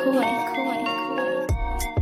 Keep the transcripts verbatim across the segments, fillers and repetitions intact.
Kool-Aid, Kool-Aid, Kool-Aid.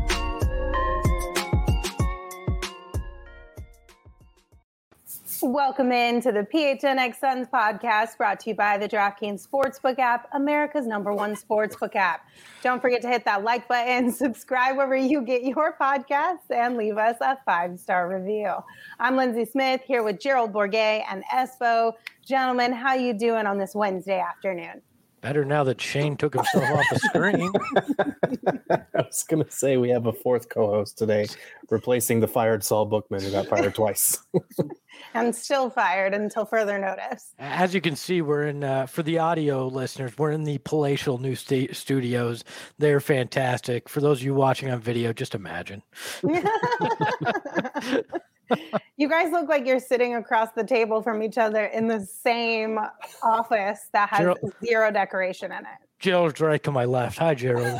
Welcome in to the P H N X Suns podcast, brought to you by the DraftKings Sportsbook app, America's number one sportsbook app. Don't forget to hit that like button, subscribe wherever you get your podcasts, and leave us a five-star review. I'm Lindsay Smith here with Gerald Bourguet and Espo. Gentlemen, how you doing on this Wednesday afternoon? Better now that Shane took himself off the screen. I was going to say we have a fourth co-host today, replacing the fired Saul Bookman, who got fired twice. And still fired until further notice. As you can see, we're in, uh, for the audio listeners, we're in the palatial new sta- studios. They're fantastic. For those of you watching on video, just imagine. You guys look like you're sitting across the table from each other in the same office that has Gerald, zero decoration in it. Gerald's right to my left. Hi, Gerald.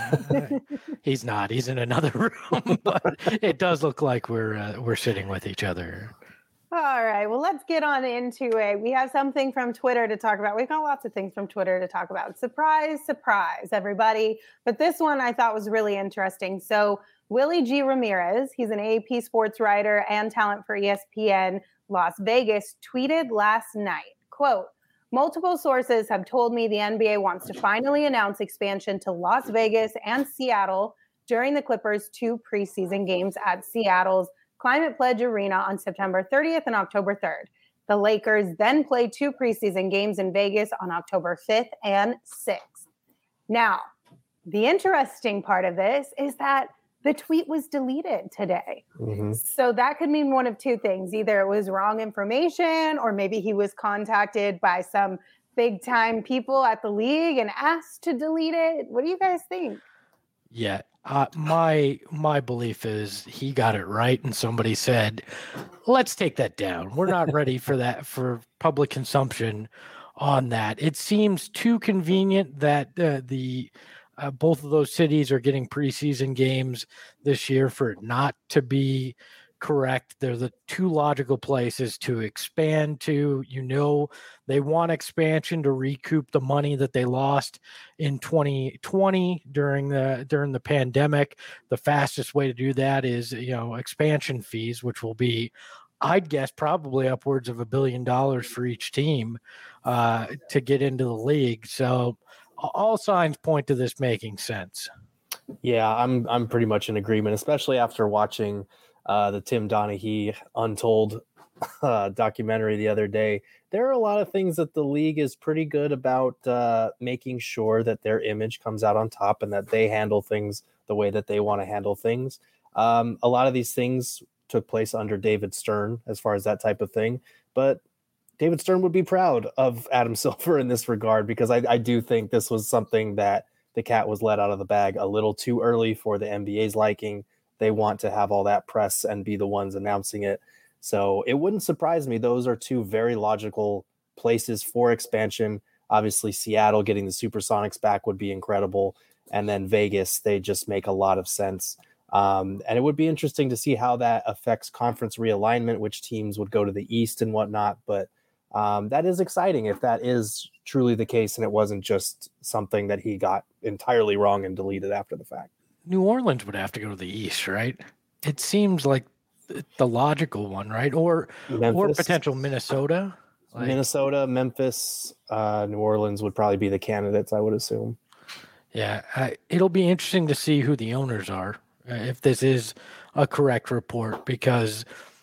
He's not. He's in another room, but it does look like we're uh, we're sitting with each other. All right. Well, let's get on into it. We have something from Twitter to talk about. We've got lots of things from Twitter to talk about. Surprise, surprise, everybody. But this one I thought was really interesting. So Willie G. Ramirez, he's an A P sports writer and talent for E S P N Las Vegas, tweeted last night, quote, multiple sources have told me the N B A wants to finally announce expansion to Las Vegas and Seattle during the Clippers' two preseason games at Seattle's Climate Pledge Arena on September thirtieth and October third. The Lakers then play two preseason games in Vegas on October fifth and sixth. Now, the interesting part of this is that the tweet was deleted today. Mm-hmm. So that could mean one of two things. Either it was wrong information, or maybe he was contacted by some big time people at the league and asked to delete it. What do you guys think? Yeah, uh, my my belief is he got it right, and somebody said, let's take that down. We're not ready for that, for public consumption on that. It seems too convenient that uh, the Uh, both of those cities are getting preseason games this year for it not to be correct. They're the two logical places to expand to. You know, they want expansion to recoup the money that they lost in twenty twenty during the during the pandemic. The fastest way to do that is, you know, expansion fees, which will be, I'd guess, probably upwards of a billion dollars for each team uh, to get into the league. So all signs point to this making sense. Yeah, I'm I'm pretty much in agreement, especially after watching uh, the Tim Donaghy Untold uh, documentary the other day. There are a lot of things that the league is pretty good about uh, making sure that their image comes out on top and that they handle things the way that they want to handle things. Um, a lot of these things took place under David Stern as far as that type of thing, but David Stern would be proud of Adam Silver in this regard, because I, I do think this was something that the cat was let out of the bag a little too early for the N B A's liking. They want to have all that press and be the ones announcing it. So it wouldn't surprise me. Those are two very logical places for expansion. Obviously, Seattle getting the Supersonics back would be incredible. And then Vegas, they just make a lot of sense. Um, and it would be interesting to see how that affects conference realignment, which teams would go to the East and whatnot. But Um, that is exciting if that is truly the case and it wasn't just something that he got entirely wrong and deleted after the fact. New Orleans would have to go to the East, right? It seems like the logical one, right? Or Memphis. Or potential Minnesota. Like, Minnesota, Memphis, uh, New Orleans would probably be the candidates, I would assume. Yeah, uh, it'll be interesting to see who the owners are, uh, if this is a correct report, because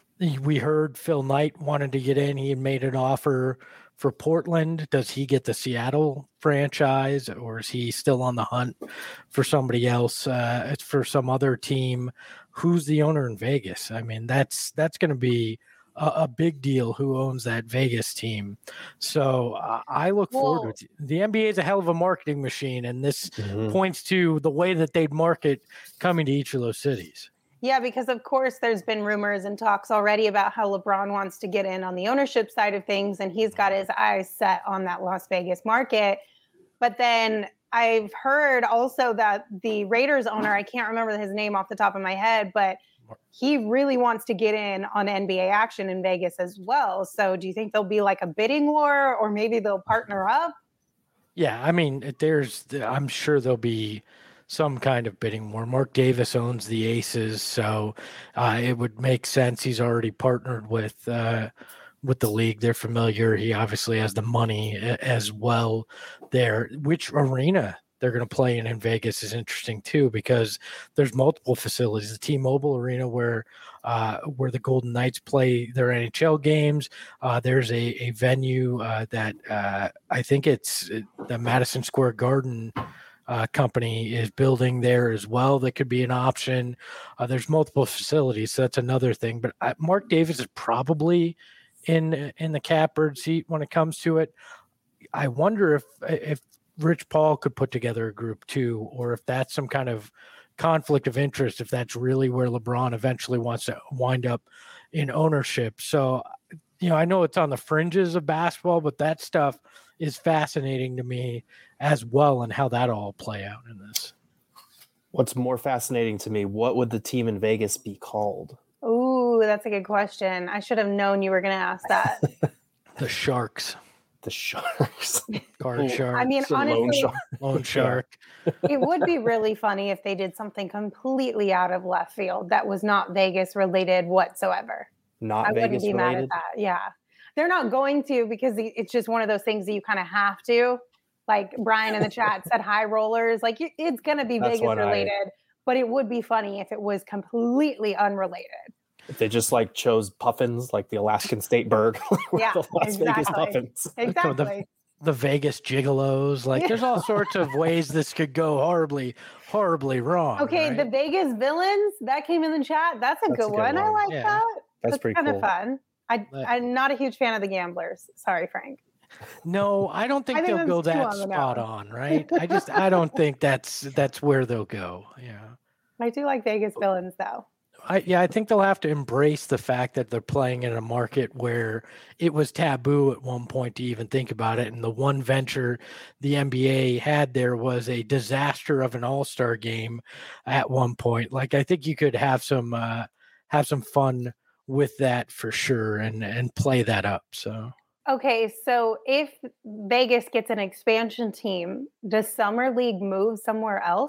we heard Phil Knight wanted to get in. He had made an offer for Portland. Does he get the Seattle franchise, or is he still on the hunt for somebody else? Uh, it's for some other team. Who's the owner in Vegas? I mean, that's that's going to be a, a big deal. Who owns that Vegas team? So uh, I look Whoa. forward to it. The N B A is a hell of a marketing machine, and this mm-hmm. points to the way that they'd market coming to each of those cities. Yeah, because of course there's been rumors and talks already about how LeBron wants to get in on the ownership side of things, and he's got his eyes set on that Las Vegas market. But then I've heard also that the Raiders owner, I can't remember his name off the top of my head, but he really wants to get in on N B A action in Vegas as well. So do you think there'll be like a bidding war, or maybe they'll partner up? Yeah, I mean, there's, I'm sure there'll be some kind of bidding war. Mark Davis owns the Aces, so uh, it would make sense. He's already partnered with uh, with the league. They're familiar. He obviously has the money as well there. Which arena they're going to play in in Vegas is interesting too, because there's multiple facilities. The T-Mobile Arena where uh, where the Golden Knights play their N H L games. Uh, there's a, a venue uh, that uh, I think it's the Madison Square Garden uh, company is building there as well. That could be an option. Uh, there's multiple facilities, so that's another thing. But uh, Mark Davis is probably in in the catbird seat when it comes to it. I wonder if if Rich Paul could put together a group too, or if that's some kind of conflict of interest, if that's really where LeBron eventually wants to wind up in ownership. So, you know, I know it's on the fringes of basketball, but that stuff is fascinating to me as well, and how that all play out in this. What's more fascinating to me, what would the team in Vegas be called? Ooh, that's a good question. I should have known you were going to ask that. The Sharks. The Sharks. Card Shark. I mean, It's a lone honestly, shark. Lone Shark. it would be really funny if they did something completely out of left field that was not Vegas related whatsoever. Not I wouldn't Vegas be mad related. at that. Yeah. They're not going to, because the- it's just one of those things that you kind of have to. Like Brian in the chat said, high rollers. Like you- it's going to be That's Vegas what I- related, but it would be funny if it was completely unrelated. If they just like chose puffins, like the Alaskan state bird, like Yeah, the Las Vegas exactly. puffins. Exactly. The Vegas Gigolos. Like, there's all sorts of ways this could go horribly, horribly wrong. Okay, right? the Vegas villains that came in the chat. That's a That's good a good one. I one. like Yeah. that. That's pretty kind cool. of fun. I, But- I'm not a huge fan of the gamblers. Sorry, Frank. No, I don't think I think they'll go that's too that on the spot nose. on, right? I just I don't think that's that's where they'll go. Yeah. I do like Vegas villains though. I yeah, I think they'll have to embrace the fact that they're playing in a market where it was taboo at one point to even think about it. And the one venture the N B A had there was a disaster of an all-star game at one point. Like, I think you could have some uh have some fun with that for sure, and and play that up. So Okay, so if Vegas gets an expansion team, does Summer League move somewhere else?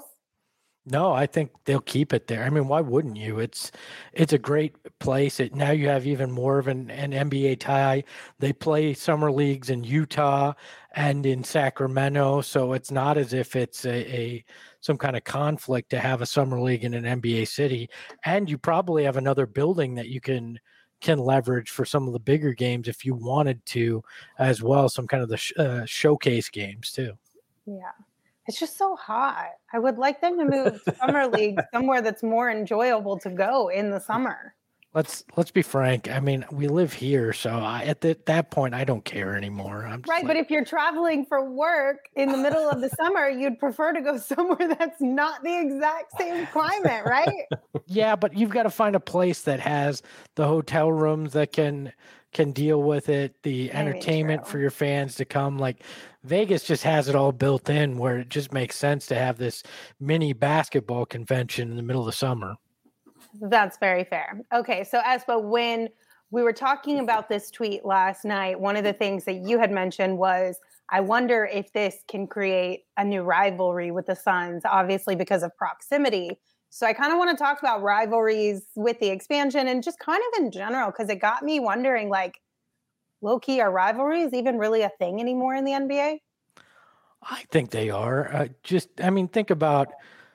no, I think they'll keep it there. I mean, why wouldn't you? It's it's a great place. It now you have even more of an, an N B A tie. They play summer leagues in Utah and in Sacramento, so it's not as if it's a, a some kind of conflict to have a summer league in an N B A city. And you probably have another building that you can can leverage for some of the bigger games if you wanted to, as well. Some kind of the sh- uh, showcase games too. Yeah. It's just so hot. I would like them to move Summer League somewhere that's more enjoyable to go in the summer. Let's let's be frank. I mean, we live here, so I, at the, that point, I don't care anymore. I'm just Right, like, but if you're traveling for work in the middle of the summer, you'd prefer to go somewhere that's not the exact same climate, right? yeah, but you've got to find a place that has the hotel rooms that can can deal with it, the I mean, entertainment true. for your fans to come. Like, Vegas just has it all built in, where it just makes sense to have this mini basketball convention in the middle of the summer. That's very fair. Okay, so Espa, when we were talking about this tweet last night, one of the things that you had mentioned was, I wonder if this can create a new rivalry with the Suns, obviously because of proximity. So I kind of want to talk about rivalries with the expansion and just kind of in general, because it got me wondering, like, low key, are rivalries even really a thing anymore in the N B A? I think they are. Uh, just, I mean, think about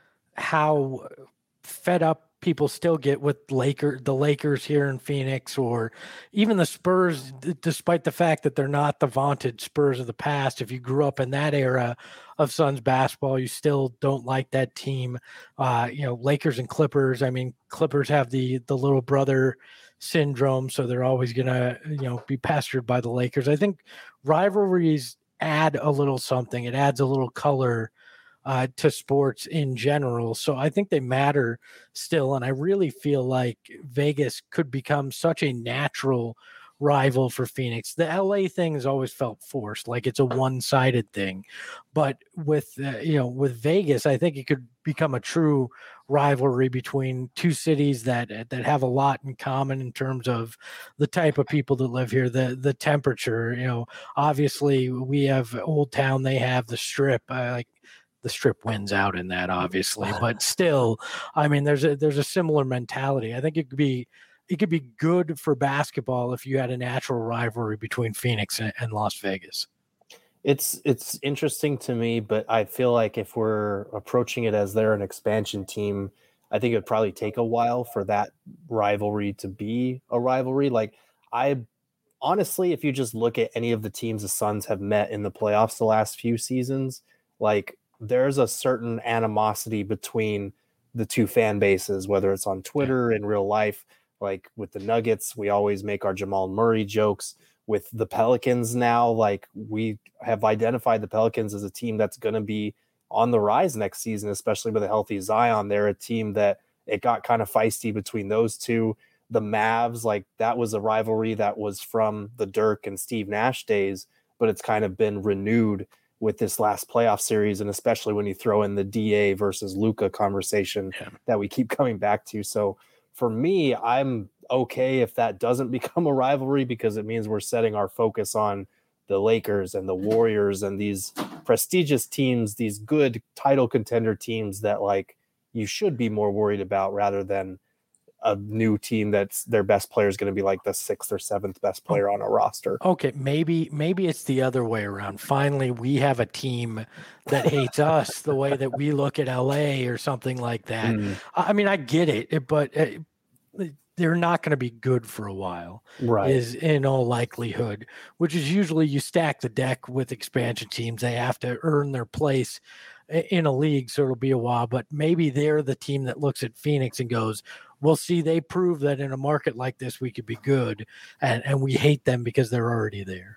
how fed up people still get with Laker, the Lakers here in Phoenix, or even the Spurs, d- despite the fact that they're not the vaunted Spurs of the past. If you grew up in that era of Suns basketball, you still don't like that team. Uh, you know, Lakers and Clippers. I mean, Clippers have the the little brother syndrome, so they're always gonna, you know, be pestered by the Lakers. I think rivalries add a little something. It adds a little color uh, to sports in general. So I think they matter still. And I really feel like Vegas could become such a natural rival for Phoenix. The L A thing has always felt forced, like it's a one-sided thing. But with, uh, you know, with Vegas, I think it could become a true rivalry between two cities that that have a lot in common in terms of the type of people that live here, the the temperature. You know, obviously we have Old Town, they have the Strip. Uh, like the Strip wins out in that, obviously, but still, I mean, there's a there's a similar mentality. I think it could be it could be good for basketball if you had a natural rivalry between Phoenix and, and Las Vegas. It's it's interesting to me, but I feel like if we're approaching it as they're an expansion team, I think it would probably take a while for that rivalry to be a rivalry. Like, I honestly, if you just look at any of the teams the Suns have met in the playoffs the last few seasons, like, there's a certain animosity between the two fan bases, whether it's on Twitter, in real life. Like with the Nuggets, we always make our Jamal Murray jokes. With the Pelicans now, like, we have identified the Pelicans as a team that's going to be on the rise next season, especially with a healthy Zion. They're a team that it got kind of feisty between those two. The Mavs, like, that was a rivalry that was from the Dirk and Steve Nash days, but it's kind of been renewed with this last playoff series, and especially when you throw in the D A versus Luka conversation yeah. that we keep coming back to. So for me, I'm okay if that doesn't become a rivalry, because it means we're setting our focus on the Lakers and the Warriors and these prestigious teams, these good title contender teams that, like, you should be more worried about, rather than a new team that's their best player is going to be like the sixth or seventh best player on a roster. Okay, maybe maybe it's the other way around. Finally, we have a team that hates us the way that we look at L A or something like that. Mm. I mean, I get it, but uh, they're not going to be good for a while, right? Is in all likelihood, which is usually you stack the deck with expansion teams. They have to earn their place in a league, so it'll be a while. But maybe they're the team that looks at Phoenix and goes, we'll see, they prove that in a market like this, we could be good, and, and we hate them because they're already there.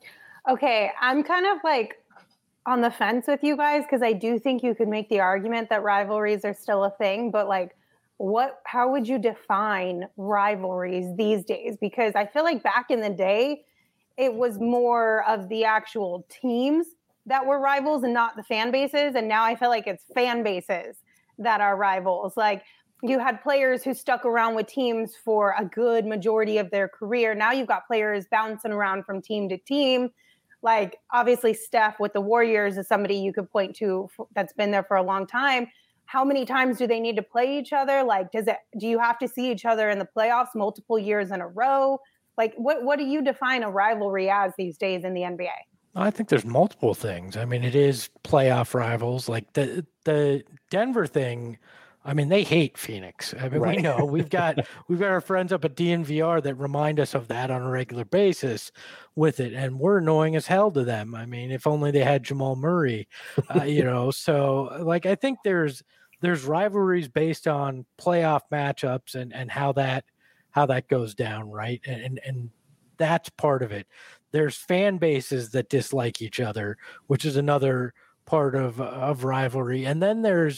Okay, I'm kind of like on the fence with you guys, because I do think you could make the argument that rivalries are still a thing, but like, what, how would you define rivalries these days? Because I feel like back in the day, it was more of the actual teams that were rivals and not the fan bases. And now I feel like it's fan bases that are rivals. Like, you had players who stuck around with teams for a good majority of their career. Now you've got players bouncing around from team to team. Like, obviously Steph with the Warriors is somebody you could point to that's been there for a long time. How many times do they need to play each other? Like, does it, do you have to see each other in the playoffs multiple years in a row? Like, what, what do you define a rivalry as these days in the N B A? I think there's multiple things. I mean, it is playoff rivals. Like the, the Denver thing, I mean, they hate Phoenix. I mean, right. we know we've got we've got our friends up at D N V R that remind us of that on a regular basis with it, and we're annoying as hell to them. I mean, if only they had Jamal Murray, uh, you know. So, like, I think there's there's rivalries based on playoff matchups and and how that how that goes down, right? And and, and that's part of it. There's fan bases that dislike each other, which is another part of of rivalry, and then there's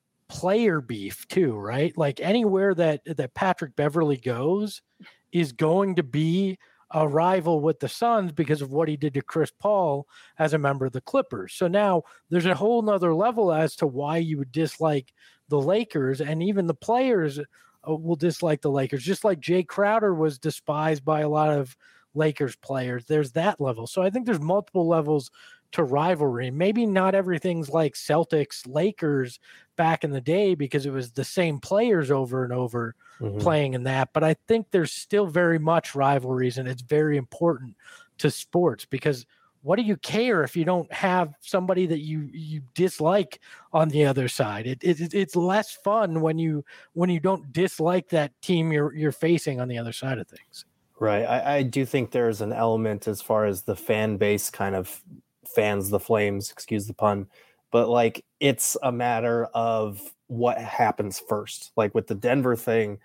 player beef too, right? Like, anywhere that that Patrick Beverley goes is going to be a rival with the Suns because of what he did to Chris Paul as a member of the Clippers. So now there's a whole nother level as to why you would dislike the Lakers, and even the players will dislike the Lakers, just like Jay Crowder was despised by a lot of Lakers players. There's that level. So I think there's multiple levels to rivalry. Maybe not everything's like Celtics, Lakers back in the day because it was the same players over and over mm-hmm. playing in that. But I think there's still very much rivalries, and it's very important to sports, because what do you care if you don't have somebody that you, you dislike on the other side? It, it it's less fun when you when you don't dislike that team you're you're facing on the other side of things. Right. I, I do think there's an element as far as the fan base kind of fans the flames, excuse the pun, but like, it's a matter of what happens first. Like with the Denver thing,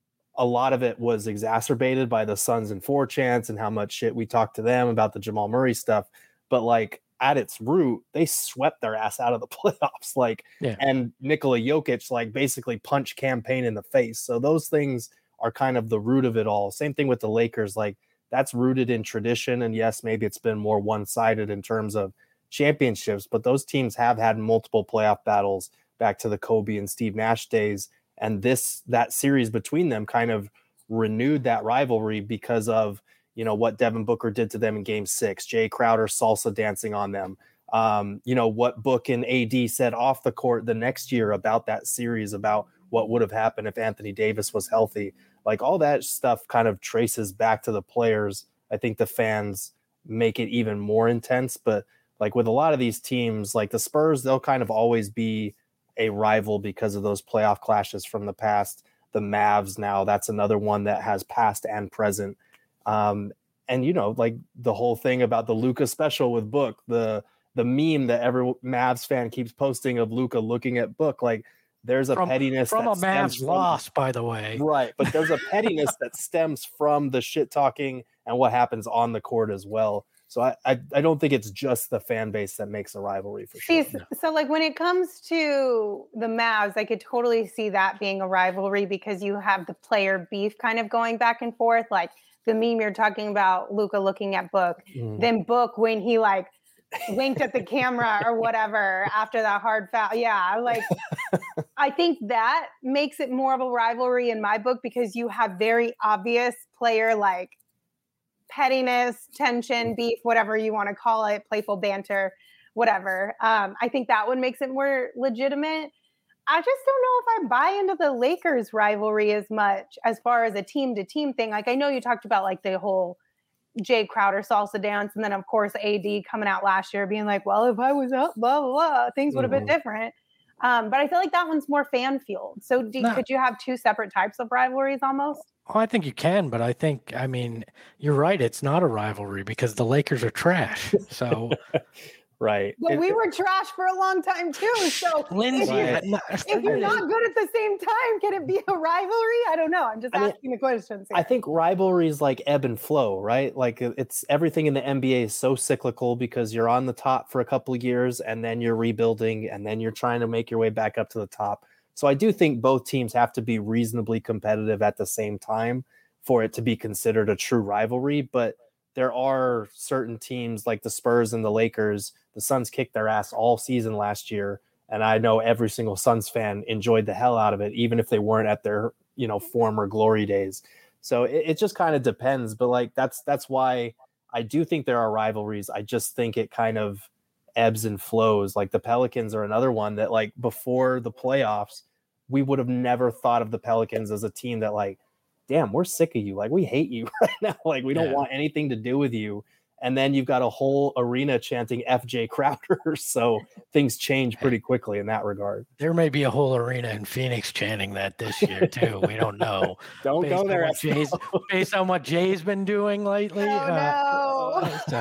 a lot of it was exacerbated by the Suns and four chants and how much shit we talked to them about the Jamal Murray stuff. But like, at its root, they swept their ass out of the playoffs. Like, yeah. And Nikola Jokic like basically punched Campaign in the face. So those things are kind of the root of it all. Same thing with the Lakers. Like, that's rooted in tradition. And yes, maybe it's been more one-sided in terms of championships, but those teams have had multiple playoff battles back to the Kobe and Steve Nash days. And this, that series between them kind of renewed that rivalry because of, you know, what Devin Booker did to them in game six, Jay Crowder salsa dancing on them, Um, you know, what Book and A D said off the court the next year about that series, about what would have happened if Anthony Davis was healthy. Like all that stuff kind of traces back to the players. I think the fans make it even more intense. But like with a lot of these teams, like the Spurs, they'll kind of always be a rival because of those playoff clashes from the past. The Mavs now, that's another one that has past and present. Um, and, you know, like the whole thing about the Luka special with Book, the the meme that every Mavs fan keeps posting of Luka looking at Book, like there's a from, pettiness from that a Mavs from, loss, by the way. Right. But there's a pettiness that stems from the shit talking and what happens on the court as well. So I, I, I don't think it's just the fan base that makes a rivalry for sure. See, so like when it comes to the Mavs, I could totally see that being a rivalry because you have the player beef kind of going back and forth. Like the meme you're talking about, Luka looking at Book, mm. then Book when he like winked at the camera or whatever after that hard foul. Yeah, like I think that makes it more of a rivalry in my book because you have very obvious player like pettiness, tension, beef, whatever you want to call it, playful banter, whatever. Um, I think that one makes it more legitimate. I just don't know if I buy into the Lakers rivalry as much as far as a team to team thing. Like I know you talked about like the whole Jay Crowder salsa dance. And then of course, A D coming out last year being like, well, if I was up, blah, blah, blah, things would have mm-hmm. been different. Um, but I feel like that one's more fan fueled. So do, no. could you have two separate types of rivalries almost? Oh, I think you can, but I think, I mean, you're right. It's not a rivalry because the Lakers are trash. So, right. But it, we were trash for a long time too. So Lindsay, if, right. you're, if you're not good at the same time, can it be a rivalry? I don't know. I'm just I asking mean, the questions. I think rivalries like ebb and flow, right? Like it's everything in the N B A is so cyclical because you're on the top for a couple of years and then you're rebuilding and then you're trying to make your way back up to the top. So I do think both teams have to be reasonably competitive at the same time for it to be considered a true rivalry. But there are certain teams like the Spurs and the Lakers. The Suns kicked their ass all season last year. And I know every single Suns fan enjoyed the hell out of it, even if they weren't at their, you know, former glory days. So it, it just kind of depends. But like, that's, that's why I do think there are rivalries. I just think it kind of ebbs and flows. Like the Pelicans are another one that like before the playoffs, we would have never thought of the Pelicans as a team that like, damn, we're sick of you. Like we hate you right now. Like we don't yeah. want anything to do with you. And then you've got a whole arena chanting F J Crowder. So things change pretty quickly in that regard. There may be a whole arena in Phoenix chanting that this year too. We don't know. don't based go there. Jay's, based on what Jay's been doing lately. Oh, uh, no. So,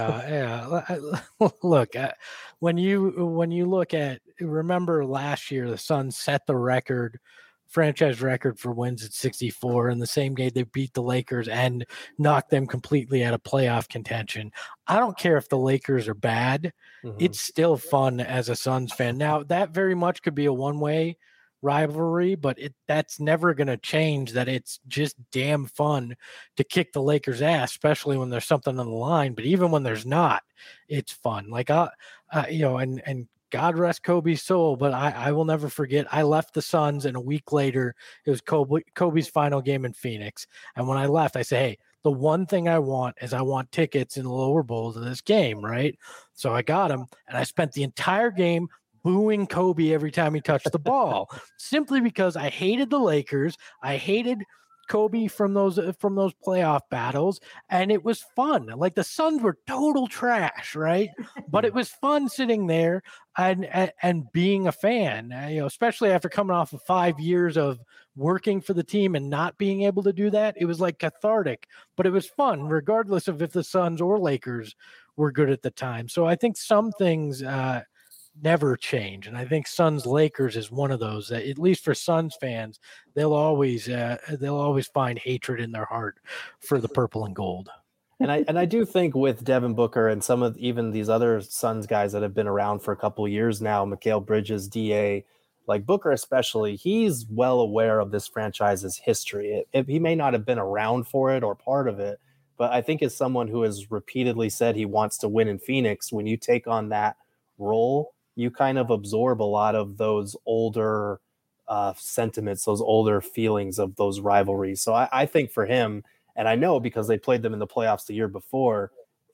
yeah. Look, uh, when you when you look at, remember last year, the Suns set the record, franchise record for wins at sixty-four. In the same game, they beat the Lakers and knocked them completely out of playoff contention. I don't care if the Lakers are bad. Mm-hmm. It's still fun as a Suns fan. Now, that very much could be a one-way rivalry, but it that's never going to change that it's just damn fun to kick the Lakers' ass, especially when there's something on the line. But even when there's not, it's fun. Like, I, uh, you know, and, and, God rest Kobe's soul, but I, I will never forget. I left the Suns, and a week later, it was Kobe, Kobe's final game in Phoenix. And when I left, I said, hey, the one thing I want is I want tickets in the lower bowls of this game, right? So I got them, and I spent the entire game booing Kobe every time he touched the ball, simply because I hated the Lakers. I hated Kobe from those from those playoff battles, and it was fun. Like the Suns were total trash, right? But it was fun sitting there and and, and being a fan, you know, especially after coming off of five years of working for the team and not being able to do that. It was like cathartic, but it was fun, regardless of if the Suns or Lakers were good at the time. So I think some things uh, never change, and I think Suns Lakers is one of those that, at least for Suns fans, they'll always uh, they'll always find hatred in their heart for the purple and gold. And I and I do think with Devin Booker and some of even these other Suns guys that have been around for a couple of years now, Mikal Bridges, D A, like Booker especially, he's well aware of this franchise's history. It, it, he may not have been around for it or part of it, but I think as someone who has repeatedly said he wants to win in Phoenix, when you take on that role, you kind of absorb a lot of those older uh, sentiments, those older feelings of those rivalries. So I, I think for him, and I know because they played them in the playoffs the year before,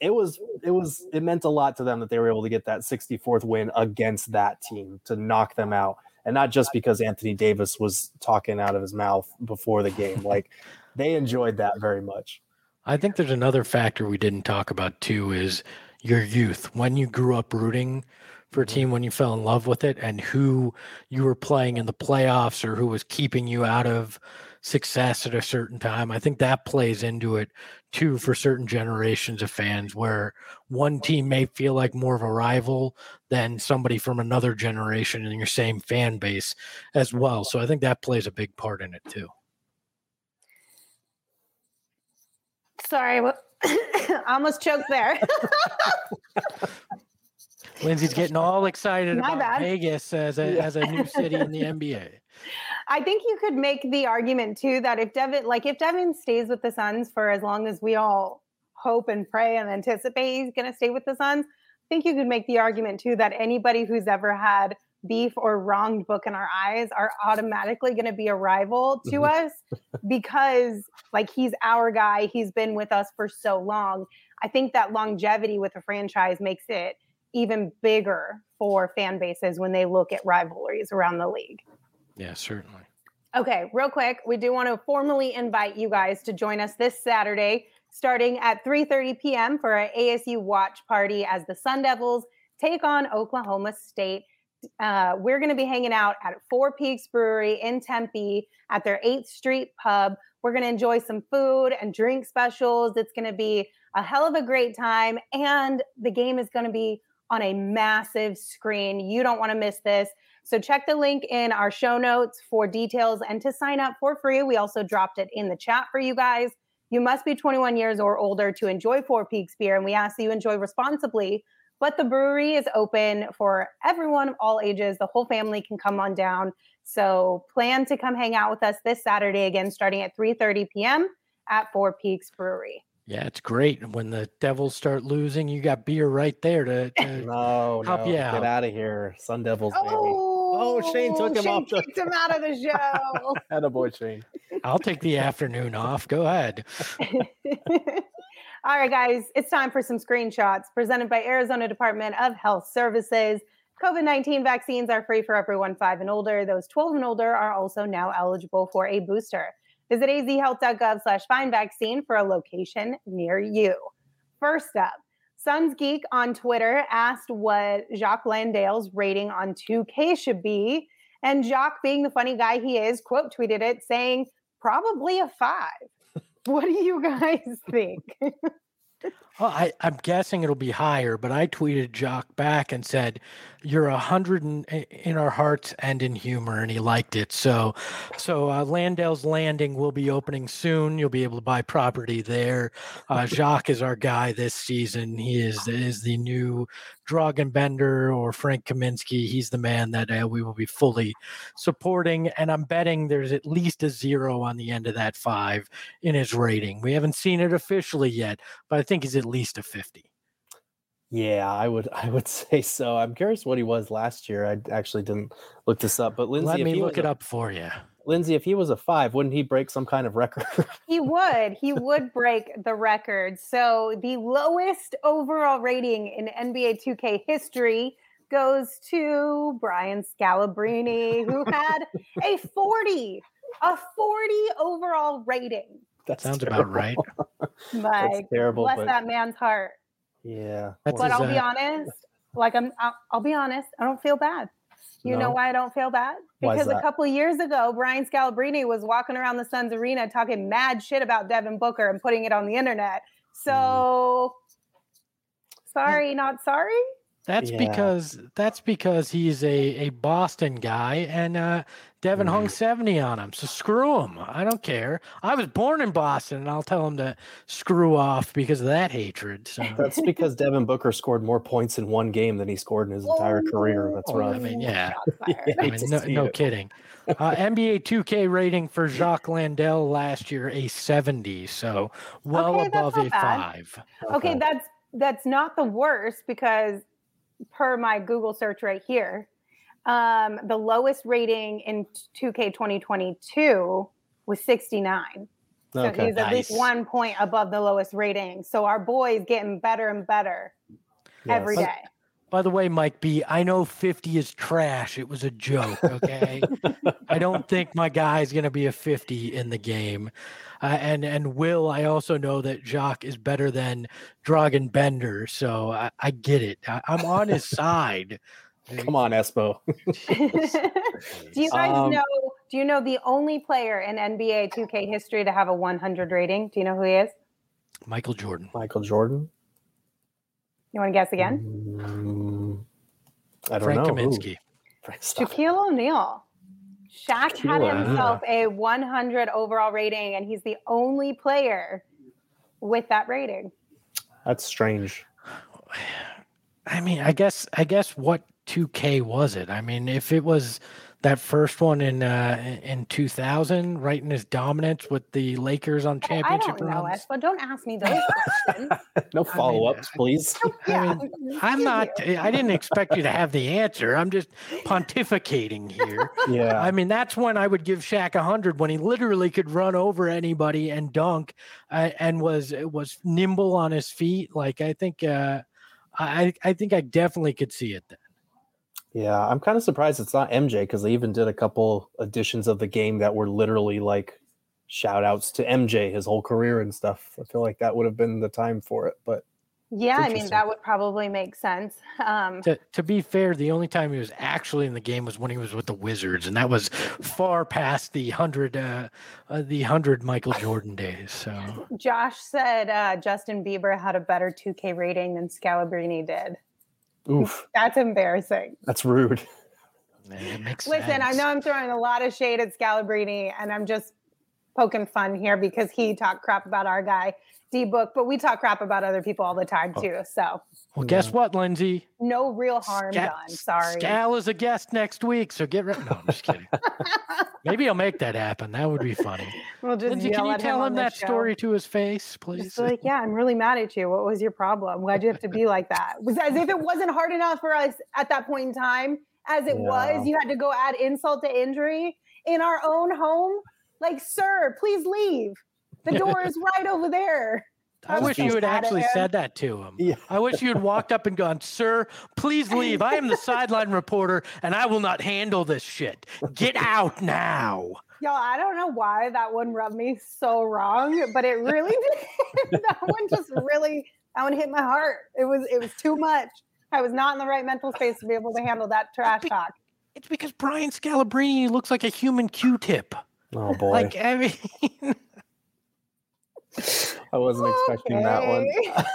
it was it was it meant a lot to them that they were able to get that sixty-fourth win against that team to knock them out, and not just because Anthony Davis was talking out of his mouth before the game. Like, they enjoyed that very much. I think there's another factor we didn't talk about too, is your youth. When you grew up rooting for a team, when you fell in love with it, and who you were playing in the playoffs or who was keeping you out of success at a certain time. I think that plays into it too for certain generations of fans, where one team may feel like more of a rival than somebody from another generation in your same fan base as well. So I think that plays a big part in it too. Sorry, I almost choked there. Lindsay's getting all excited My about bad. Vegas as a as a new city in the N B A. I think you could make the argument too that if Devin, like if Devin stays with the Suns for as long as we all hope and pray and anticipate he's going to stay with the Suns, I think you could make the argument too that anybody who's ever had beef or wronged book in our eyes are automatically going to be a rival to Mhm. us because like he's our guy. He's been with us for so long. I think that longevity with a franchise makes it even bigger for fan bases when they look at rivalries around the league. Yeah, certainly. Okay, real quick, we do want to formally invite you guys to join us this Saturday, starting at three thirty p.m. for our A S U watch party as the Sun Devils take on Oklahoma State. Uh, we're going to be hanging out at Four Peaks Brewery in Tempe at their eighth Street Pub. We're going to enjoy some food and drink specials. It's going to be a hell of a great time, and the game is going to be on a massive screen. You don't want to miss this. So check the link in our show notes for details and to sign up for free. We also dropped it in the chat for you guys. You must be twenty-one years or older to enjoy Four Peaks beer, and we ask that you enjoy responsibly. But the brewery is open for everyone of all ages. The whole family can come on down. So plan to come hang out with us this Saturday, again, starting at three thirty p.m. at Four Peaks Brewery. Yeah, it's great. When the Devils start losing, you got beer right there to, to No, help no, you get out. out of here, Sun Devils. Baby. Oh, Oh, Shane took him Shane off the- kicked him out of the show. Attaboy, Shane. I'll take the afternoon off. Go ahead. All right, guys, it's time for some screenshots presented by Arizona Department of Health Services. COVID nineteen vaccines are free for everyone five and older. Those twelve and older are also now eligible for a booster. Visit azhealth.gov slash find vaccine for a location near you. First up, Suns Geek on Twitter asked what Jacques Landale's rating on two K should be. And Jacques, being the funny guy he is, quote tweeted it saying, probably a five. What do you guys think? Well, I, I'm guessing it'll be higher, but I tweeted Jock back and said, "You're a hundred in, in our hearts and in humor," and he liked it. So, so uh, Landale's Landing will be opening soon. You'll be able to buy property there. Uh, Jacques is our guy this season. He is is the new Dragenbender or Frank Kaminsky. He's the man that uh, we will be fully supporting, and I'm betting there's at least a zero on the end of that five in his rating. We haven't seen it officially yet, but I think he's at least a fifty. Yeah, I would I would say so. I'm curious what he was last year. I actually didn't look this up, but Lindsay, Let if me he look was it a- up for you. Lindsay, if he was a five, wouldn't he break some kind of record? He would. He would break the record. So the lowest overall rating in N B A two K history goes to Brian Scalabrine, who had a forty, a forty overall rating. That Sounds about right. Like, terrible, bless but- that man's heart. Yeah. That's But his, I'll be uh, honest, like I'm, I'll, I'll be honest, I don't feel bad. You know No? why I don't feel bad? Why is Because a that? couple of years ago, Brian Scalabrine was walking around the Suns arena talking mad shit about Devin Booker and putting it on the internet. So, sorry, not sorry. That's Yeah. because that's because he's a, a Boston guy, and uh, Devin hung seventy on him. So screw him. I don't care. I was born in Boston, and I'll tell him to screw off because of that hatred. So That's because Devin Booker scored more points in one game than he scored in his entire career. That's Oh, right. I mean, yeah. Shots fired. I hate mean, to no, see no it. kidding. Uh, N B A two K rating for Jacques Landale last year a seventy, so well Okay, that's above not a bad. five. Okay, that's that's not the worst because per my Google search right here, um, the lowest rating in two K twenty twenty-two was sixty-nine. So Okay. he's at least Nice. one point above the lowest rating. So our boy is getting better and better every Yes. day. By the way, Mike B, I know fifty is trash. It was a joke, okay? I don't think my guy's going to be a fifty in the game. Uh, and and Will, I also know that Jacques is better than Dragan Bender, so I, I get it. I, I'm on his side. Come on, Espo. Do you guys Um, know? Do you know the only player in N B A two K history to have a one hundred rating? Do you know who he is? Michael Jordan. Michael Jordan. You want to guess again? Mm, I don't Frank know. Kaminsky. Who? Stop. Shaquille O'Neal. Shaq had Shaquille, himself a one hundred overall rating, and he's the only player with that rating. That's strange. I mean, I guess I guess what two K was it? I mean, if it was that first one in uh in two thousand, right in his dominance with the Lakers on I championship don't know, runs. Espo. Don't ask me those questions. No follow-ups, please. Yeah, I'm excuse not you. I didn't expect you to have the answer. I'm just pontificating here. Yeah. I mean, that's when I would give Shaq a hundred, when he literally could run over anybody and dunk, uh, and was was nimble on his feet. Like I think, uh, I I think I definitely could see it then. Yeah, I'm kind of surprised it's not M J because they even did a couple editions of the game that were literally like shout outs to M J, his whole career and stuff. I feel like that would have been the time for it, but Yeah, I mean interesting. that would probably make sense. Um, To to be fair, the only time he was actually in the game was when he was with the Wizards, and that was far past the hundred uh, uh, the hundred Michael Jordan days. So Josh said uh, Justin Bieber had a better two K rating than Scalabrini did. oof, That's embarrassing. that's rude. it makes Listen, I sense. know I'm throwing a lot of shade at Scalabrini, and I'm just poking fun here because he talked crap about our guy D Book, but we talk crap about other people all the time too. So Well, guess what, Lindsay? no real harm Sca- done. Sorry. Scal is a guest next week, so get ready. No, I'm just kidding. Maybe I'll make that happen. That would be funny. We'll just Lindsay, yell can you at tell on him the that show. story to his face, please? Just be like, yeah, I'm really mad at you. What was your problem? Why'd you have to be like that? Was as if it wasn't hard enough for us at that point in time as it Yeah. was. You had to go add insult to injury in our own home. Like, sir, please leave. The door is right over there. I was wish so you had mad at actually him. said that to him. Yeah. I wish you had walked up and gone, sir, please leave. I am the sideline reporter and I will not handle this shit. Get out now. Y'all, I don't know why that one rubbed me so wrong, but it really did. That one just really, that one hit my heart. It was, it was too much. I was not in the right mental space to be able to handle that trash talk. It's because Brian Scalabrine looks like a human Q-tip. Oh boy, Like, I mean, I wasn't expecting that one. Okay.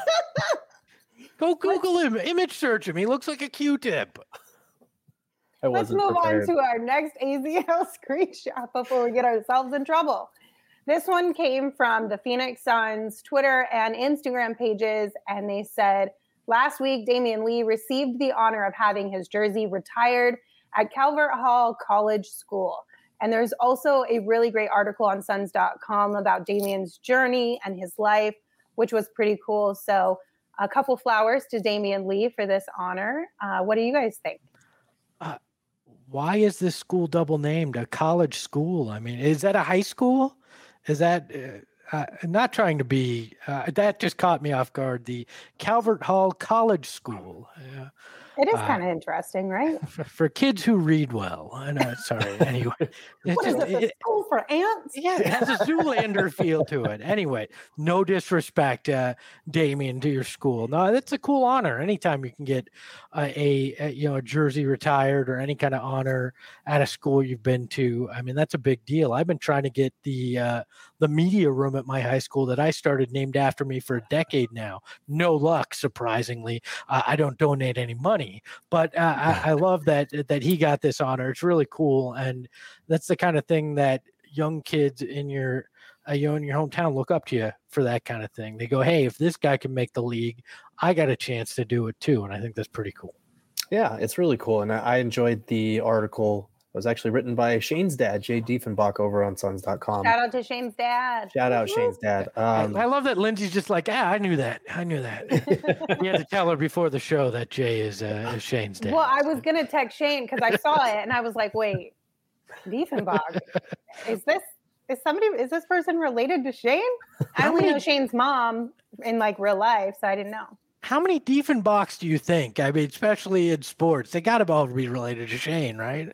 go Google him, image search him. He looks like a Q-tip. I Let's wasn't move prepared. on to our next A Z L screenshot before we get ourselves in trouble. This one came from the Phoenix Suns Twitter and Instagram pages, and they said, last week, Damian Lee received the honor of having his jersey retired at Calvert Hall College School. And there's also a really great article on suns dot com about Damian's journey and his life, which was pretty cool. So a couple flowers to Damian Lee for this honor. Uh, what do you guys think? Why is this school double named a college school? I mean, is that a high school? Is that uh, uh, not trying to be? Uh, that just caught me off guard. The Calvert Hall College School. Uh, It is Uh, kind of interesting, right? for, for kids who read well. I know. Sorry. Anyway, it's What is just- this, a it- school for ants? yeah, it has a Zoolander feel to it. Anyway, no disrespect, uh, Damien, to your school. No, that's a cool honor. Anytime you can get uh, a, a you know a jersey retired or any kind of honor at a school you've been to, I mean that's a big deal. I've been trying to get the uh, the media room at my high school that I started named after me for a decade now. No luck, surprisingly. Uh, I don't donate any money. But uh, I, I love that that he got this honor. It's really cool, and that's the kind of thing that young kids in your uh, you know in your hometown look up to you for. That kind of thing. They go, "Hey, if this guy can make the league, I got a chance to do it too." And I think that's pretty cool. Yeah, it's really cool, and I, I enjoyed the article. It was actually written by Shane's dad, Jay Diefenbach, over on suns dot com. Shout out to Shane's dad. Shout out Woo-hoo. Shane's dad. I- Um, I, love that Lindsay's just like, "Ah, I knew that. I knew that." You had to tell her before the show that Jay is, uh, is Shane's dad. Well, I was going to text Shane because I saw it and I was like, wait, Diefenbach, is this is somebody is this person related to Shane? I How only many- know Shane's mom in like real life, so I didn't know. How many Diefenbachs do you think? I mean, especially in sports, they got to all be related to Shane, right?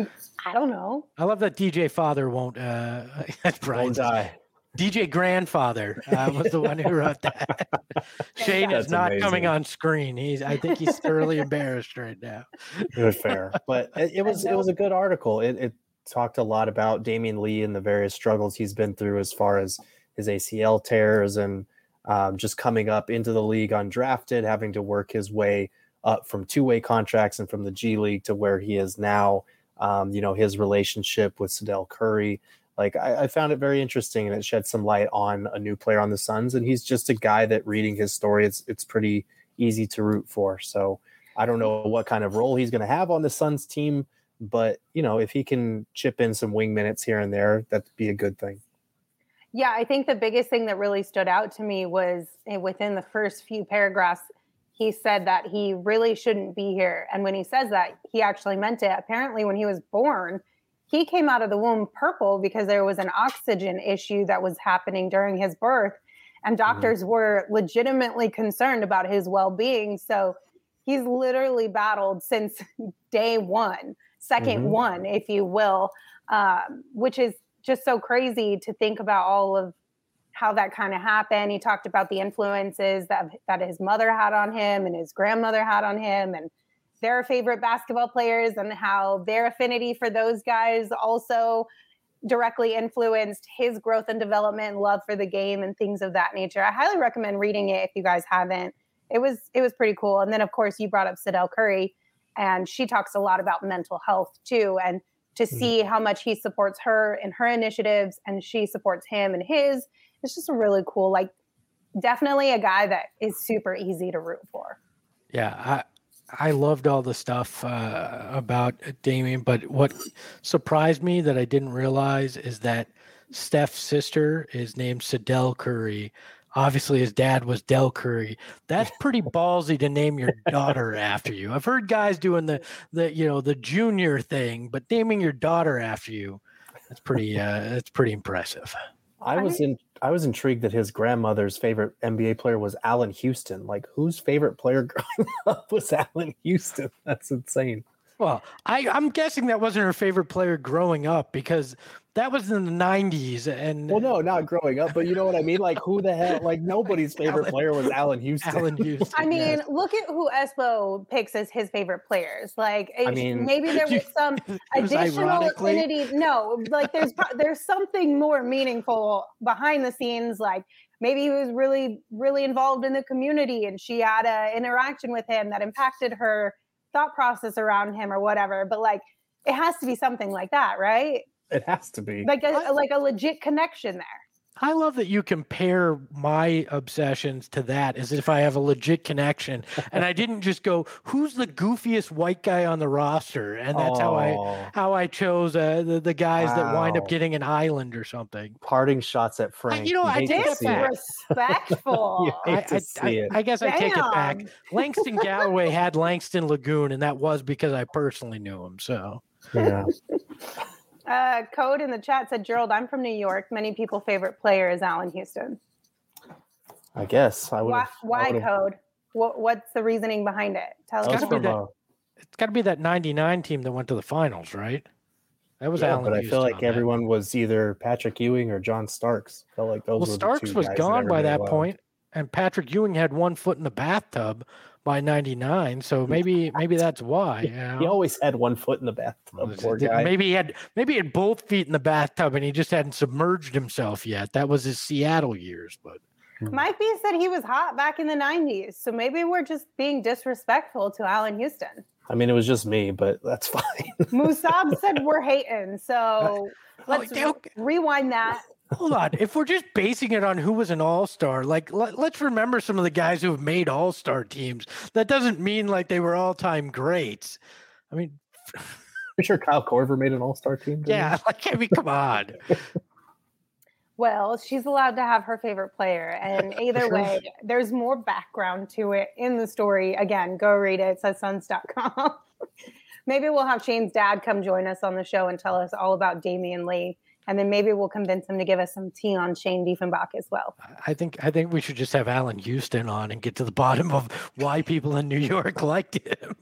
I don't know. I love that D J Father won't. Uh, that's Won't Brian's die. D J Grandfather uh, was the one who wrote that. Shane is That's not coming amazing. on screen. He's. I think he's thoroughly embarrassed right now. Good, fair, but it, it was it was a good article. It, it talked a lot about Damian Lee and the various struggles he's been through as far as his A C L tears and um, just coming up into the league undrafted, having to work his way up from two-way contracts and from the G League to where he is now. Um, you know, his relationship with Sedell Curry. Like I, I found it very interesting, and it shed some light on a new player on the Suns. And he's just a guy that, reading his story, it's it's pretty easy to root for. So I don't know what kind of role he's going to have on the Suns team, but you know, if he can chip in some wing minutes here and there, that'd be a good thing. Yeah, I think the biggest thing that really stood out to me was eh, within the first few paragraphs, he said that he really shouldn't be here. And when he says that, he actually meant it. Apparently, when he was born, he came out of the womb purple because there was an oxygen issue that was happening during his birth. And doctors mm-hmm. were legitimately concerned about his well-being. So he's literally battled since day one, second mm-hmm. one, if you will, um, which is just so crazy to think about all of how that kind of happened. He talked about the influences that, that his mother had on him and his grandmother had on him and their favorite basketball players and how their affinity for those guys also directly influenced his growth and development and love for the game and things of that nature. I highly recommend reading it if you guys haven't. It was it was pretty cool. And then, of course, you brought up Sedell Curry, and she talks a lot about mental health, too. And to see how much he supports her in her initiatives and she supports him and his, it's just a really cool, like, definitely a guy that is super easy to root for. Yeah, I I loved all the stuff uh, about Damian, but what surprised me that I didn't realize is that Steph's sister is named Sedell Curry. Obviously, his dad was Del Curry. That's pretty ballsy to name your daughter after you. I've heard guys doing the the you know the junior thing, but naming your daughter after you, that's pretty uh, that's pretty impressive. I was in I was intrigued that his grandmother's favorite N B A player was Allen Houston. Like, whose favorite player growing up was Allen Houston? That's insane. Well, I, I'm guessing that wasn't her favorite player growing up because that was in the nineties. And well, no, not growing up, but you know what I mean? Like, who the hell? Like, nobody's favorite Allen, player was Allen Houston. Allen Houston. I mean, yes. Look at who Espo picks as his favorite players. Like, I mean, maybe there was some was additional ironically... affinity. No, like there's there's something more meaningful behind the scenes. Like maybe he was really, really involved in the community, and she had an interaction with him that impacted her thought process around him or whatever. But like, it has to be something like that, right? It has to be like a like a legit connection there. I love that you compare my obsessions to that as if I have a legit connection. And I didn't just go, who's the goofiest white guy on the roster? And that's oh. how I how I chose uh, the, the guys wow. that wind up getting an island or something. Parting shots at Frank. I, you know, I take it back. Respectful. I, I, I, I guess Damn. I take it back. Langston Galloway had Langston Lagoon, and that was because I personally knew him. So, yeah. Uh, Code in the chat said, Gerald, I'm from New York. Many people's favorite player is Allen Houston. I guess I would. Why, why Code? What, what's the reasoning behind it? Tell it's us. Gotta that, it's got to be that ninety-nine team that went to the finals, right? That was yeah, Allen but I Houston feel like everyone that. was either Patrick Ewing or John Starks. Felt like those. Well, were Starks the two was guys gone that by that well. point, and Patrick Ewing had one foot in the bathtub by ninety-nine, so maybe maybe that's why. You know? He always had one foot in the bathtub. Poor guy. Maybe he had maybe he had both feet in the bathtub, and he just hadn't submerged himself yet. That was his Seattle years, but. Mike B said he was hot back in the nineties, so maybe we're just being disrespectful to Allen Houston. I mean, it was just me, but that's fine. Musab said we're hating, so let's oh, okay. rewind that. Hold on. If we're just basing it on who was an all-star, like let, let's remember some of the guys who have made all-star teams. That doesn't mean like they were all-time greats. I mean, I'm sure Kyle Korver made an all-star team. Yeah, he? like I mean, come on. Well, she's allowed to have her favorite player, and either way, there's more background to it in the story. Again, go read it. It says Suns dot com. Maybe we'll have Shane's dad come join us on the show and tell us all about Damian Lee. And then maybe we'll convince him to give us some tea on Shane Diefenbach as well. I think I think we should just have Alan Houston on and get to the bottom of why people in New York liked him.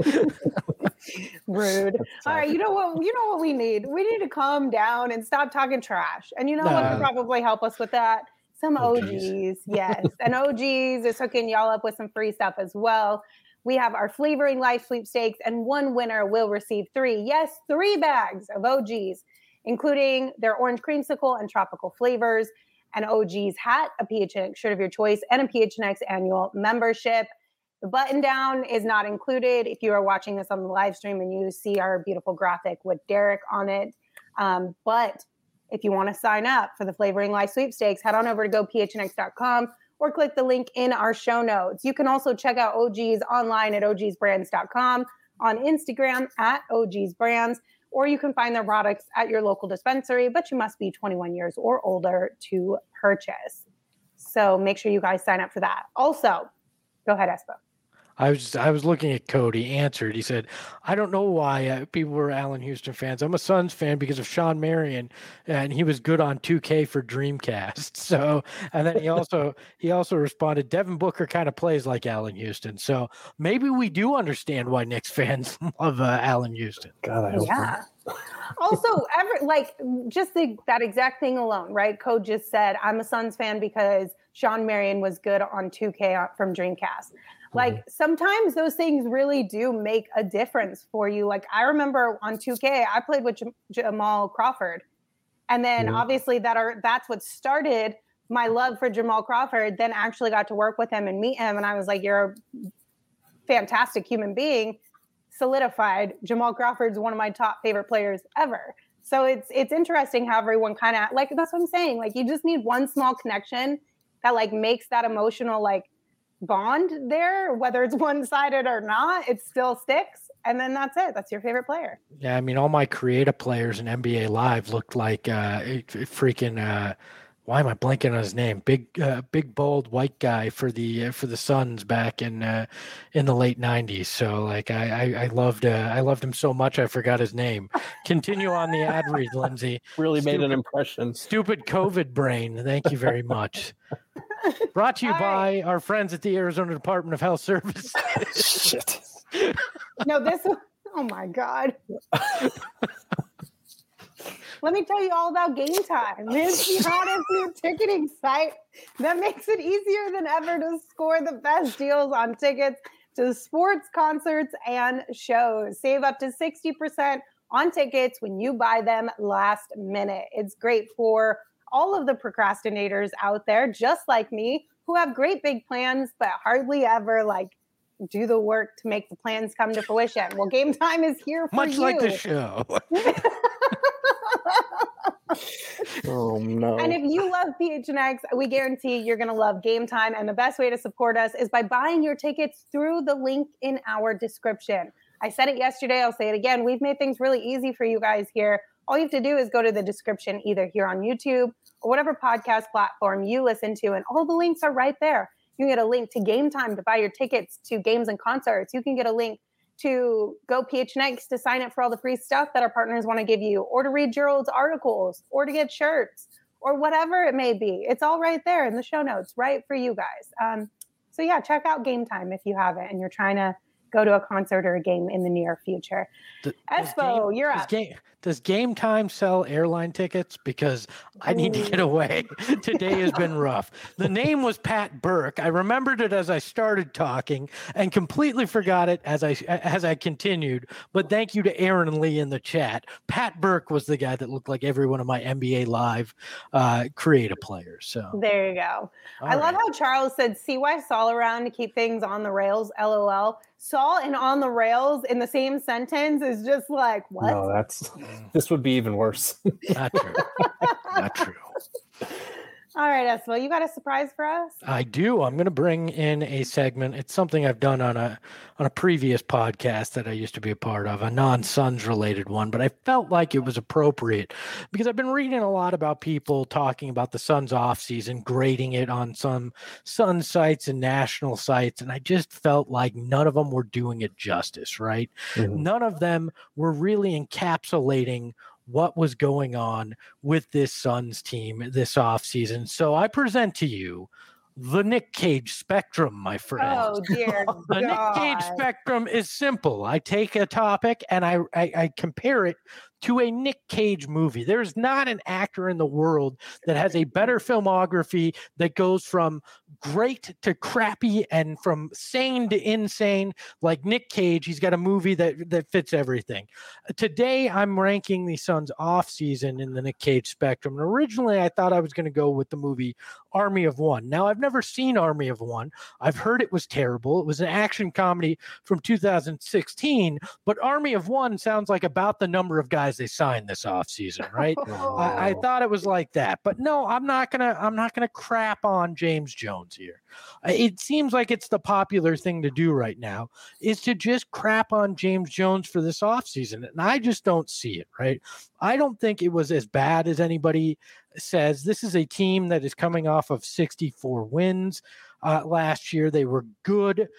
Rude. All right, you know what? You know what we need? We need to calm down and stop talking trash. And you know what could Nah. probably help us with that? Some O O Gs. Gs. Yes. And O Gs is hooking y'all up with some free stuff as well. We have our Flavoring Life sweepstakes, and one winner will receive three, yes, three bags of O Gs, including their orange creamsicle and tropical flavors, an O G's hat, a P H N X shirt of your choice, and a P H N X annual membership. The button down is not included if you are watching this on the live stream and you see our beautiful graphic with Derek on it. Um, but if you want to sign up for the Flavoring Life sweepstakes, head on over to go P H N X dot com or click the link in our show notes. You can also check out O Gs online at O Gs brands dot com, on Instagram at O Gs brands, or you can find their products at your local dispensary, but you must be twenty-one years or older to purchase. So make sure you guys sign up for that. Also, go ahead, Espo. I was I was looking at Cody. He answered. He said, "I don't know why uh, people were Allen Houston fans. I'm a Suns fan because of Sean Marion, and he was good on two K for Dreamcast." So, and then he also he also responded, "Devin Booker kind of plays like Allen Houston." So maybe we do understand why Knicks fans love uh, Allen Houston. God, I hope Yeah. Also, every like just the, that exact thing alone, right? Code just said, "I'm a Suns fan because Sean Marion was good on two K from Dreamcast." Like mm-hmm. sometimes those things really do make a difference for you. Like I remember on two K, I played with Jam- Jamal Crawford, and then mm-hmm. obviously that are that's what started my love for Jamal Crawford. Then actually got to work with him and meet him, and I was like, "You're a fantastic human being." Solidified Jamal Crawford's one of my top favorite players ever. So it's it's interesting how everyone kind of like that's what I'm saying. Like you just need one small connection that like makes that emotional like bond there, whether it's one-sided or not, it still sticks. And then that's it. That's your favorite player. Yeah, I mean, all my creative players in N B A Live looked like uh, freaking. Uh, why am I blanking on his name? Big, uh, big, bold white guy for the uh, for the Suns back in uh, in the late nineties. So, like, I I, I loved uh, I loved him so much I forgot his name. Continue on the ad read, Lindsay. Really stupid, made an impression. Stupid COVID brain. Thank you very much. Brought to you All by right. our friends at the Arizona Department of Health Services. Shit. No, this. Oh my God. Let me tell you all about Game Time. It's the hottest new ticketing site that makes it easier than ever to score the best deals on tickets to sports, concerts, and shows. Save up to sixty percent on tickets when you buy them last minute. It's great for all of the procrastinators out there, just like me, who have great big plans, but hardly ever like do the work to make the plans come to fruition. Well, Game Time is here for Much you. like the show. Oh no. And if you love P H N X, we guarantee you're going to love Game Time. And the best way to support us is by buying your tickets through the link in our description. I said it yesterday. I'll say it again. We've made things really easy for you guys here. All you have to do is go to the description, either here on YouTube or whatever podcast platform you listen to. And all the links are right there. You can get a link to Game Time to buy your tickets to games and concerts. You can get a link to go P H N X to sign up for all the free stuff that our partners want to give you, or to read Gerald's articles, or to get shirts, or whatever it may be. It's all right there in the show notes, right for you guys. Um, so yeah, check out Game Time if you haven't and you're trying to go to a concert or a game in the near future. The, Espo, game, you're does up. Game, does Game Time sell airline tickets? Because I need to get away. Today has been rough. The name was Pat Burke. I remembered it as I started talking and completely forgot it as I as I continued. But thank you to Aaron and Lee in the chat. Pat Burke was the guy that looked like every one of my N B A Live uh, creative players. So there you go. All I right. love how Charles said, "See why Saul around to keep things on the rails." L O L. Saul and on the rails in the same sentence is just like, what? No, that's this would be even worse. Not true. Not true. All right, Espo, you got a surprise for us? I do. I'm going to bring in a segment. It's something I've done on a on a previous podcast that I used to be a part of, a non-Suns related one, but I felt like it was appropriate because I've been reading a lot about people talking about the Suns offseason, grading it on some Sun sites and national sites, and I just felt like none of them were doing it justice, right? Mm-hmm. None of them were really encapsulating what was going on with this Suns team this offseason. So I present to you the Nick Cage spectrum, my friend. Oh dear The God. Nick Cage spectrum is simple. I take a topic and I, I I compare it to a Nick Cage movie. There's not an actor in the world that has a better filmography that goes from great to crappy and from sane to insane like Nick Cage. He's got a movie that that fits everything. Today I'm ranking the Suns off season in the Nick Cage spectrum. And originally I thought I was going to go with the movie Army of One. Now I've never seen Army of One. I've heard it was terrible. It was an action comedy from two thousand sixteen, but Army of One sounds like about the number of guys they signed this offseason, right? I, I thought it was like that, but no, I'm not gonna I'm not gonna crap on James Jones here. It seems like it's the popular thing to do right now is to just crap on James Jones for this offseason, and I just don't see it, right? I don't think it was as bad as anybody says. This is a team that is coming off of sixty-four wins uh, last year. They were good.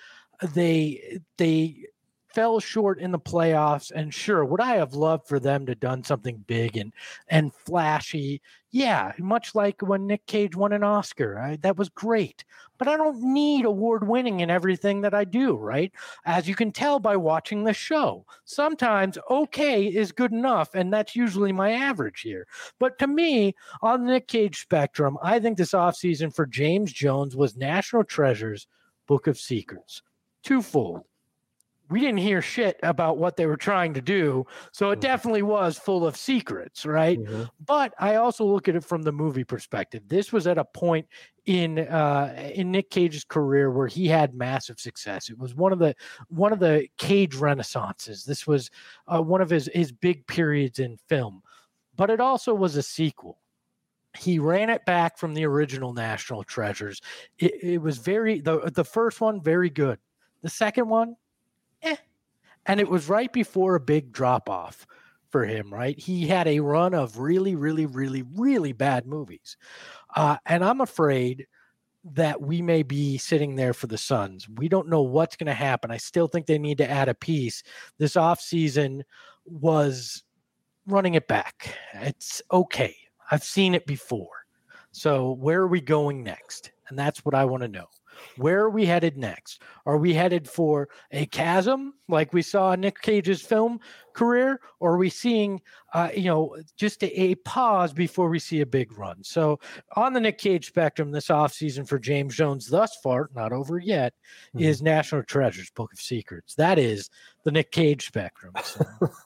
They they fell short in the playoffs, and sure, would I have loved for them to done something big and and flashy? Yeah, much like when Nick Cage won an Oscar. I, that was great. But I don't need award winning in everything that I do, right? As you can tell by watching the show, sometimes okay is good enough, and that's usually my average here. But to me, on the Nick Cage spectrum, I think this offseason for James Jones was National Treasure's Book of Secrets. Twofold. We didn't hear shit about what they were trying to do, so it definitely was full of secrets, right? Mm-hmm. But I also look at it from the movie perspective. This was at a point in uh, in Nick Cage's career where he had massive success. It was one of the one of the Cage renaissances. This was uh, one of his his big periods in film, but it also was a sequel. He ran it back from the original National Treasures. It, it was very the the first one very good. The second one. Eh. And it was right before a big drop off for him, right? He had a run of really, really, really, really bad movies. Uh, and I'm afraid that we may be sitting there for the Suns. We don't know what's going to happen. I still think they need to add a piece. This offseason was running it back. It's okay. I've seen it before. So where are we going next? And that's what I want to know. Where are we headed next? Are we headed for a chasm like we saw in Nick Cage's film career? Or are we seeing, uh, you know, just a, a pause before we see a big run? So on the Nick Cage spectrum, this offseason for James Jones thus far, not over yet, mm-hmm. is National Treasures, Book of Secrets. That is the Nick Cage spectrum. So.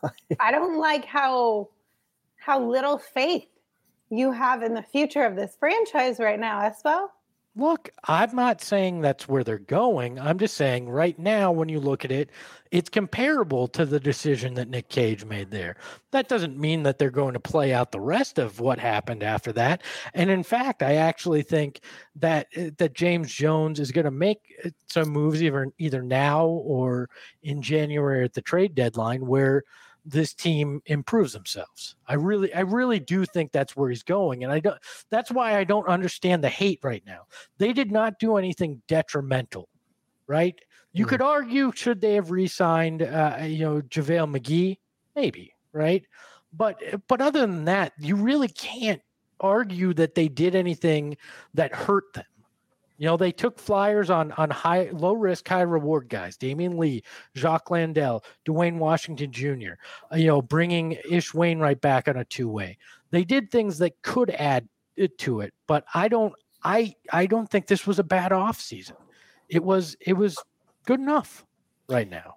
I don't like how how little faith you have in the future of this franchise right now, Espo. Look, I'm not saying that's where they're going. I'm just saying right now, when you look at it, it's comparable to the decision that Nick Cage made there. That doesn't mean that they're going to play out the rest of what happened after that. And in fact, I actually think that that James Jones is going to make some moves either, either now or in January at the trade deadline where this team improves themselves. I really, I really do think that's where he's going. And I don't, that's why I don't understand the hate right now. They did not do anything detrimental, right? You mm. could argue, should they have re-signed, uh, you know, JaVale McGee? Maybe, right? But, but other than that, you really can't argue that they did anything that hurt them. You know, they took flyers on on high, low risk, high reward guys. Damian Lee, Jacques Landale, Dwayne Washington Junior Uh, you know, bringing Ish Wainwright back on a two way. They did things that could add it to it, but I don't. I I don't think this was a bad offseason. It was it was good enough right now.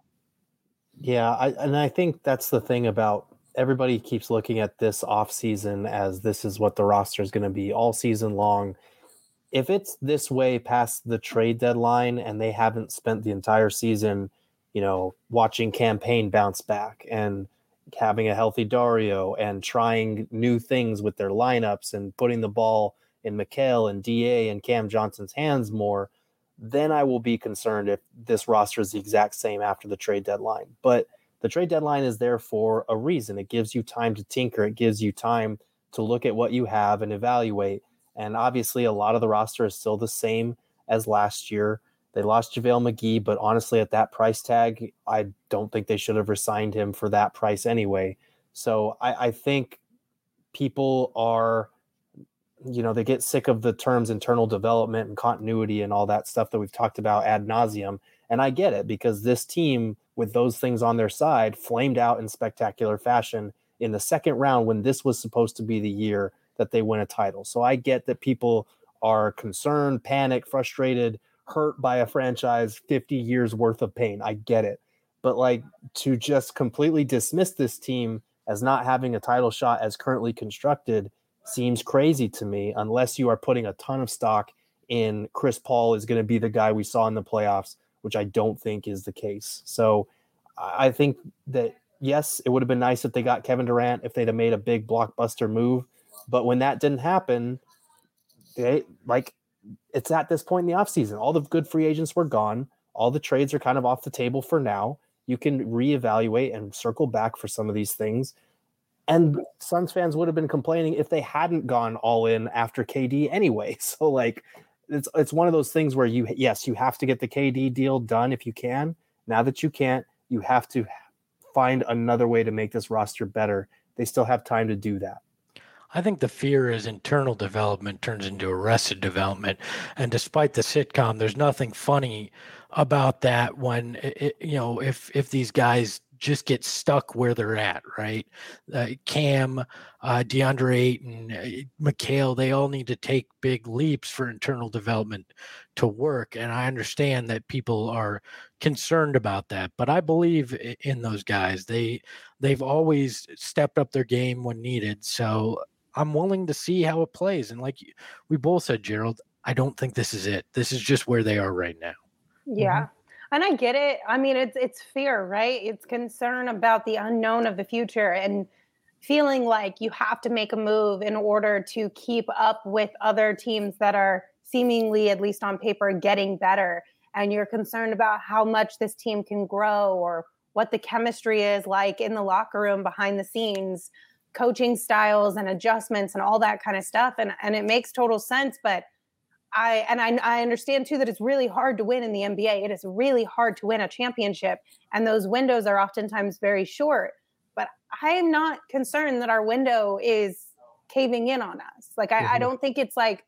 Yeah, I, and I think that's the thing about everybody keeps looking at this offseason as this is what the roster is going to be all season long. If it's this way past the trade deadline and they haven't spent the entire season, you know, watching campaign bounce back and having a healthy Dario and trying new things with their lineups and putting the ball in Mikal and D A and Cam Johnson's hands more, then I will be concerned if this roster is the exact same after the trade deadline. But the trade deadline is there for a reason. It gives you time to tinker. It gives you time to look at what you have and evaluate. And obviously, a lot of the roster is still the same as last year. They lost JaVale McGee, but honestly, at that price tag, I don't think they should have re-signed him for that price anyway. So I, I think people are, you know, they get sick of the terms internal development and continuity and all that stuff that we've talked about ad nauseum. And I get it, because this team with those things on their side flamed out in spectacular fashion in the second round when this was supposed to be the year that they win a title. So I get that people are concerned, panicked, frustrated, hurt by a franchise, fifty years worth of pain. I get it. But like, to just completely dismiss this team as not having a title shot as currently constructed seems crazy to me, unless you are putting a ton of stock in Chris Paul is going to be the guy we saw in the playoffs, which I don't think is the case. So I think that, yes, it would have been nice if they got Kevin Durant, if they'd have made a big blockbuster move. But when that didn't happen, they like it's at this point in the offseason. All the good free agents were gone. All the trades are kind of off the table for now. You can reevaluate and circle back for some of these things. And Suns fans would have been complaining if they hadn't gone all in after K D anyway. So like, it's it's one of those things where you, yes, you have to get the K D deal done if you can. Now that you can't, you have to find another way to make this roster better. They still have time to do that. I think the fear is internal development turns into arrested development. And despite the sitcom, there's nothing funny about that when, it, you know, if if these guys just get stuck where they're at, right? Uh, Cam, uh, DeAndre Ayton, uh, Mikal, they all need to take big leaps for internal development to work. And I understand that people are concerned about that, but I believe in those guys. They, they've always stepped up their game when needed. So I'm willing to see how it plays. And like we both said, Gerald, I don't think this is it. This is just where they are right now. Yeah. Mm-hmm. And I get it. I mean, it's it's fear, right? It's concern about the unknown of the future and feeling like you have to make a move in order to keep up with other teams that are seemingly, at least on paper, getting better. And you're concerned about how much this team can grow or what the chemistry is like in the locker room behind the scenes, coaching styles and adjustments and all that kind of stuff. And, and it makes total sense. But I and I, I understand, too, that it's really hard to win in the N B A. It is really hard to win a championship. And those windows are oftentimes very short. But I am not concerned that our window is caving in on us. Like, I, mm-hmm. I don't think it's like,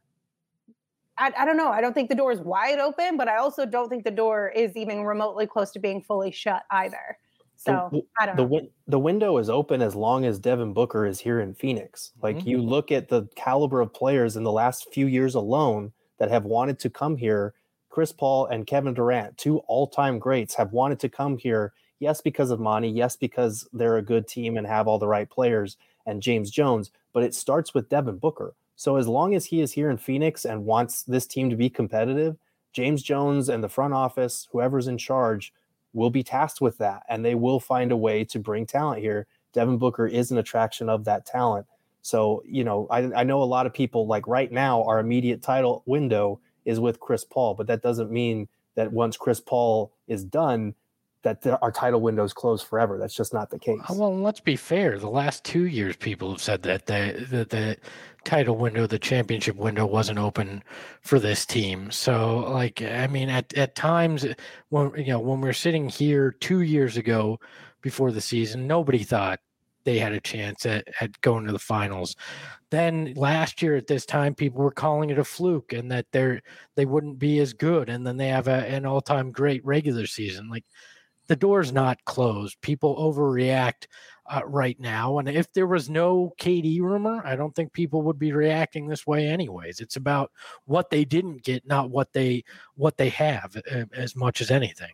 I, I don't know. I don't think the door is wide open, but I also don't think the door is even remotely close to being fully shut either. So the, I don't the, know. The window is open as long as Devin Booker is here in Phoenix. Like mm-hmm. you look at the caliber of players in the last few years alone that have wanted to come here. Chris Paul and Kevin Durant, two all-time greats, have wanted to come here. Yes, because of Monty. Yes, because they're a good team and have all the right players, and James Jones. But it starts with Devin Booker. So as long as he is here in Phoenix and wants this team to be competitive, James Jones and the front office, whoever's in charge, will be tasked with that, and they will find a way to bring talent here. Devin Booker is an attraction of that talent. So, you know, I, I know a lot of people, like right now, our immediate title window is with Chris Paul, but that doesn't mean that once Chris Paul is done, that the, our title window is closed forever. That's just not the case. Well, let's be fair. The last two years, people have said that the, the, the title window, the championship window wasn't open for this team. So, like, I mean, at, at times when, you know, when we we're sitting here two years ago before the season, nobody thought they had a chance at, at going to the finals. Then last year at this time, people were calling it a fluke and that they're, they wouldn't be as good. And then they have a, an all-time great regular season. Like, the door's not closed. People overreact uh, right now. And if there was no K D rumor, I don't think people would be reacting this way anyways. It's about what they didn't get, not what they what they have, uh, as much as anything.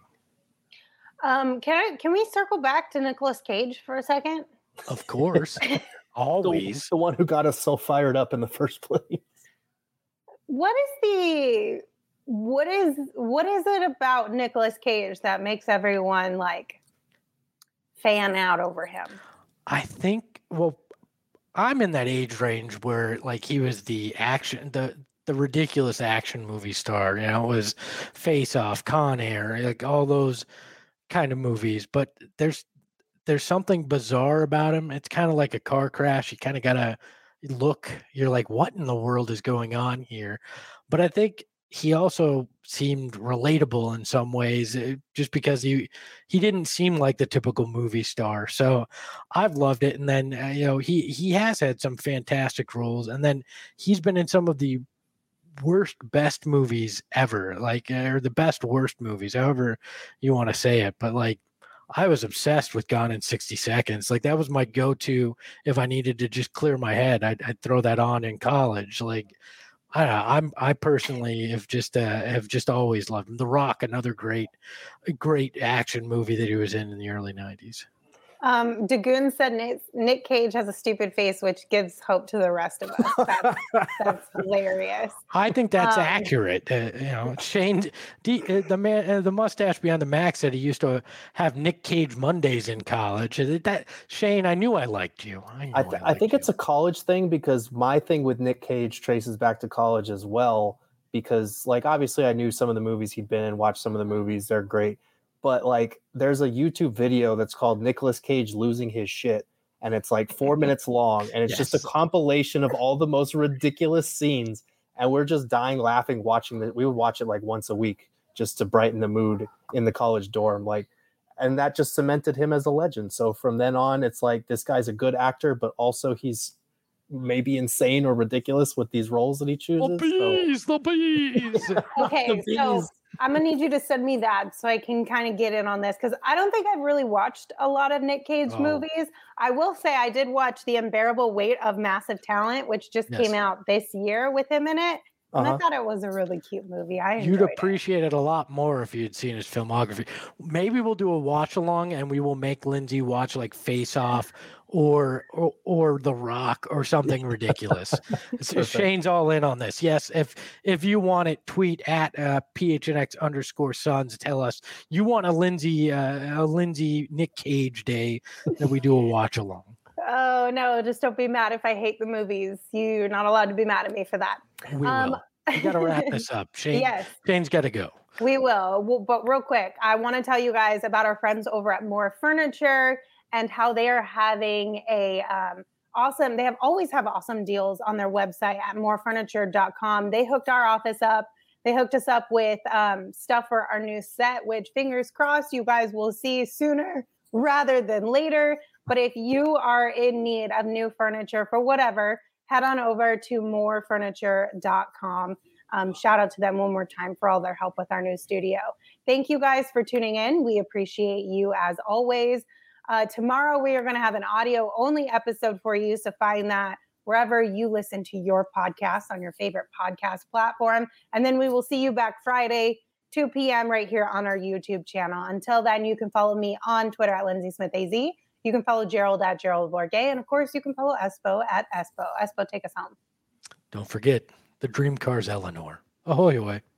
Um, can I can we circle back to Nicolas Cage for a second? Of course. Always. The, the one who got us so fired up in the first place. What is the What is what is it about Nicolas Cage that makes everyone like fan out over him? I think, well, I'm in that age range where like he was the action, the the ridiculous action movie star. You know, it was Face Off, Con Air, like all those kind of movies. But there's there's something bizarre about him. It's kind of like a car crash. You kind of gotta look. You're like, what in the world is going on here? But I think he also seemed relatable in some ways, uh, just because he he didn't seem like the typical movie star. So I've loved it. And then uh, you know he he has had some fantastic roles, and then he's been in some of the worst best movies ever, like uh, or the best worst movies, however you want to say it. But like, I was obsessed with Gone in sixty Seconds. Like that was my go-to if I needed to just clear my head. I'd, I'd throw that on in college. Like I don't know, I'm I personally have just uh, have just always loved him. The Rock, another great great action movie that he was in in the early nineties. Um, Dagoon said Nick, Nick Cage has a stupid face, which gives hope to the rest of us. That's, that's hilarious. I think that's Um, accurate. Uh, you know, Shane, D, uh, the man, uh, the mustache beyond the max said he used to have Nick Cage Mondays in college. Uh, That Shane, I knew I liked you. I, knew I, th- I, I think you. it's a college thing, because my thing with Nick Cage traces back to college as well. Because, like, obviously I knew some of the movies he'd been in, watched some of the movies, they're great. But, like, there's a YouTube video that's called Nicolas Cage Losing His Shit. And it's like four minutes long. And it's just a Yes. compilation of all the most ridiculous scenes. And we're just dying laughing watching it. We would watch it like once a week just to brighten the mood in the college dorm. Like, and that just cemented him as a legend. So from then on, it's like, this guy's a good actor, but also he's maybe insane or ridiculous with these roles that he chooses. The bees, the bees. Okay, The so bees. I'm gonna need you to send me that so I can kind of get in on this, because I don't think I've really watched a lot of Nick Cage Oh. movies. I will say I did watch The Unbearable Weight of Massive Talent, which just Yes. came out this year with him in it. And Uh-huh. I thought it was a really cute movie. I enjoyed You'd it. appreciate it a lot more if you'd seen his filmography. Maybe we'll do a watch along and we will make Lindsay watch like Face Off or or, or The Rock or something ridiculous. So Shane's all in on this. Yes, if if you want it, tweet at uh, P H N X underscore Sons. Tell us you want a Lindsay uh, a Lindsay Nick Cage day that we do a watch along. Oh no, just don't be mad if I hate the movies. You're not allowed to be mad at me for that. We Um, will. We got to wrap this up. Shane, Yes. Shane's got to go. We will. Well, but real quick, I want to tell you guys about our friends over at More Furniture and how they are having a um, awesome, they have always have awesome deals on their website at more furniture dot com. They hooked our office up. They hooked us up with um, stuff for our new set, which fingers crossed you guys will see sooner rather than later. But if you are in need of new furniture for whatever, head on over to more furniture dot com. Um, shout out to them one more time for all their help with our new studio. Thank you guys for tuning in. We appreciate you as always. Uh, tomorrow we are going to have an audio only episode for you. So find that wherever you listen to your podcast on your favorite podcast platform. And then we will see you back Friday, two p.m. right here on our YouTube channel. Until then, you can follow me on Twitter at Lindsay Smith A Z. You can follow Gerald at Gerald Bourget. And of course, you can follow Espo at Espo. Espo, take us home. Don't forget the dream car's Eleanor. Ahoy, ahoy.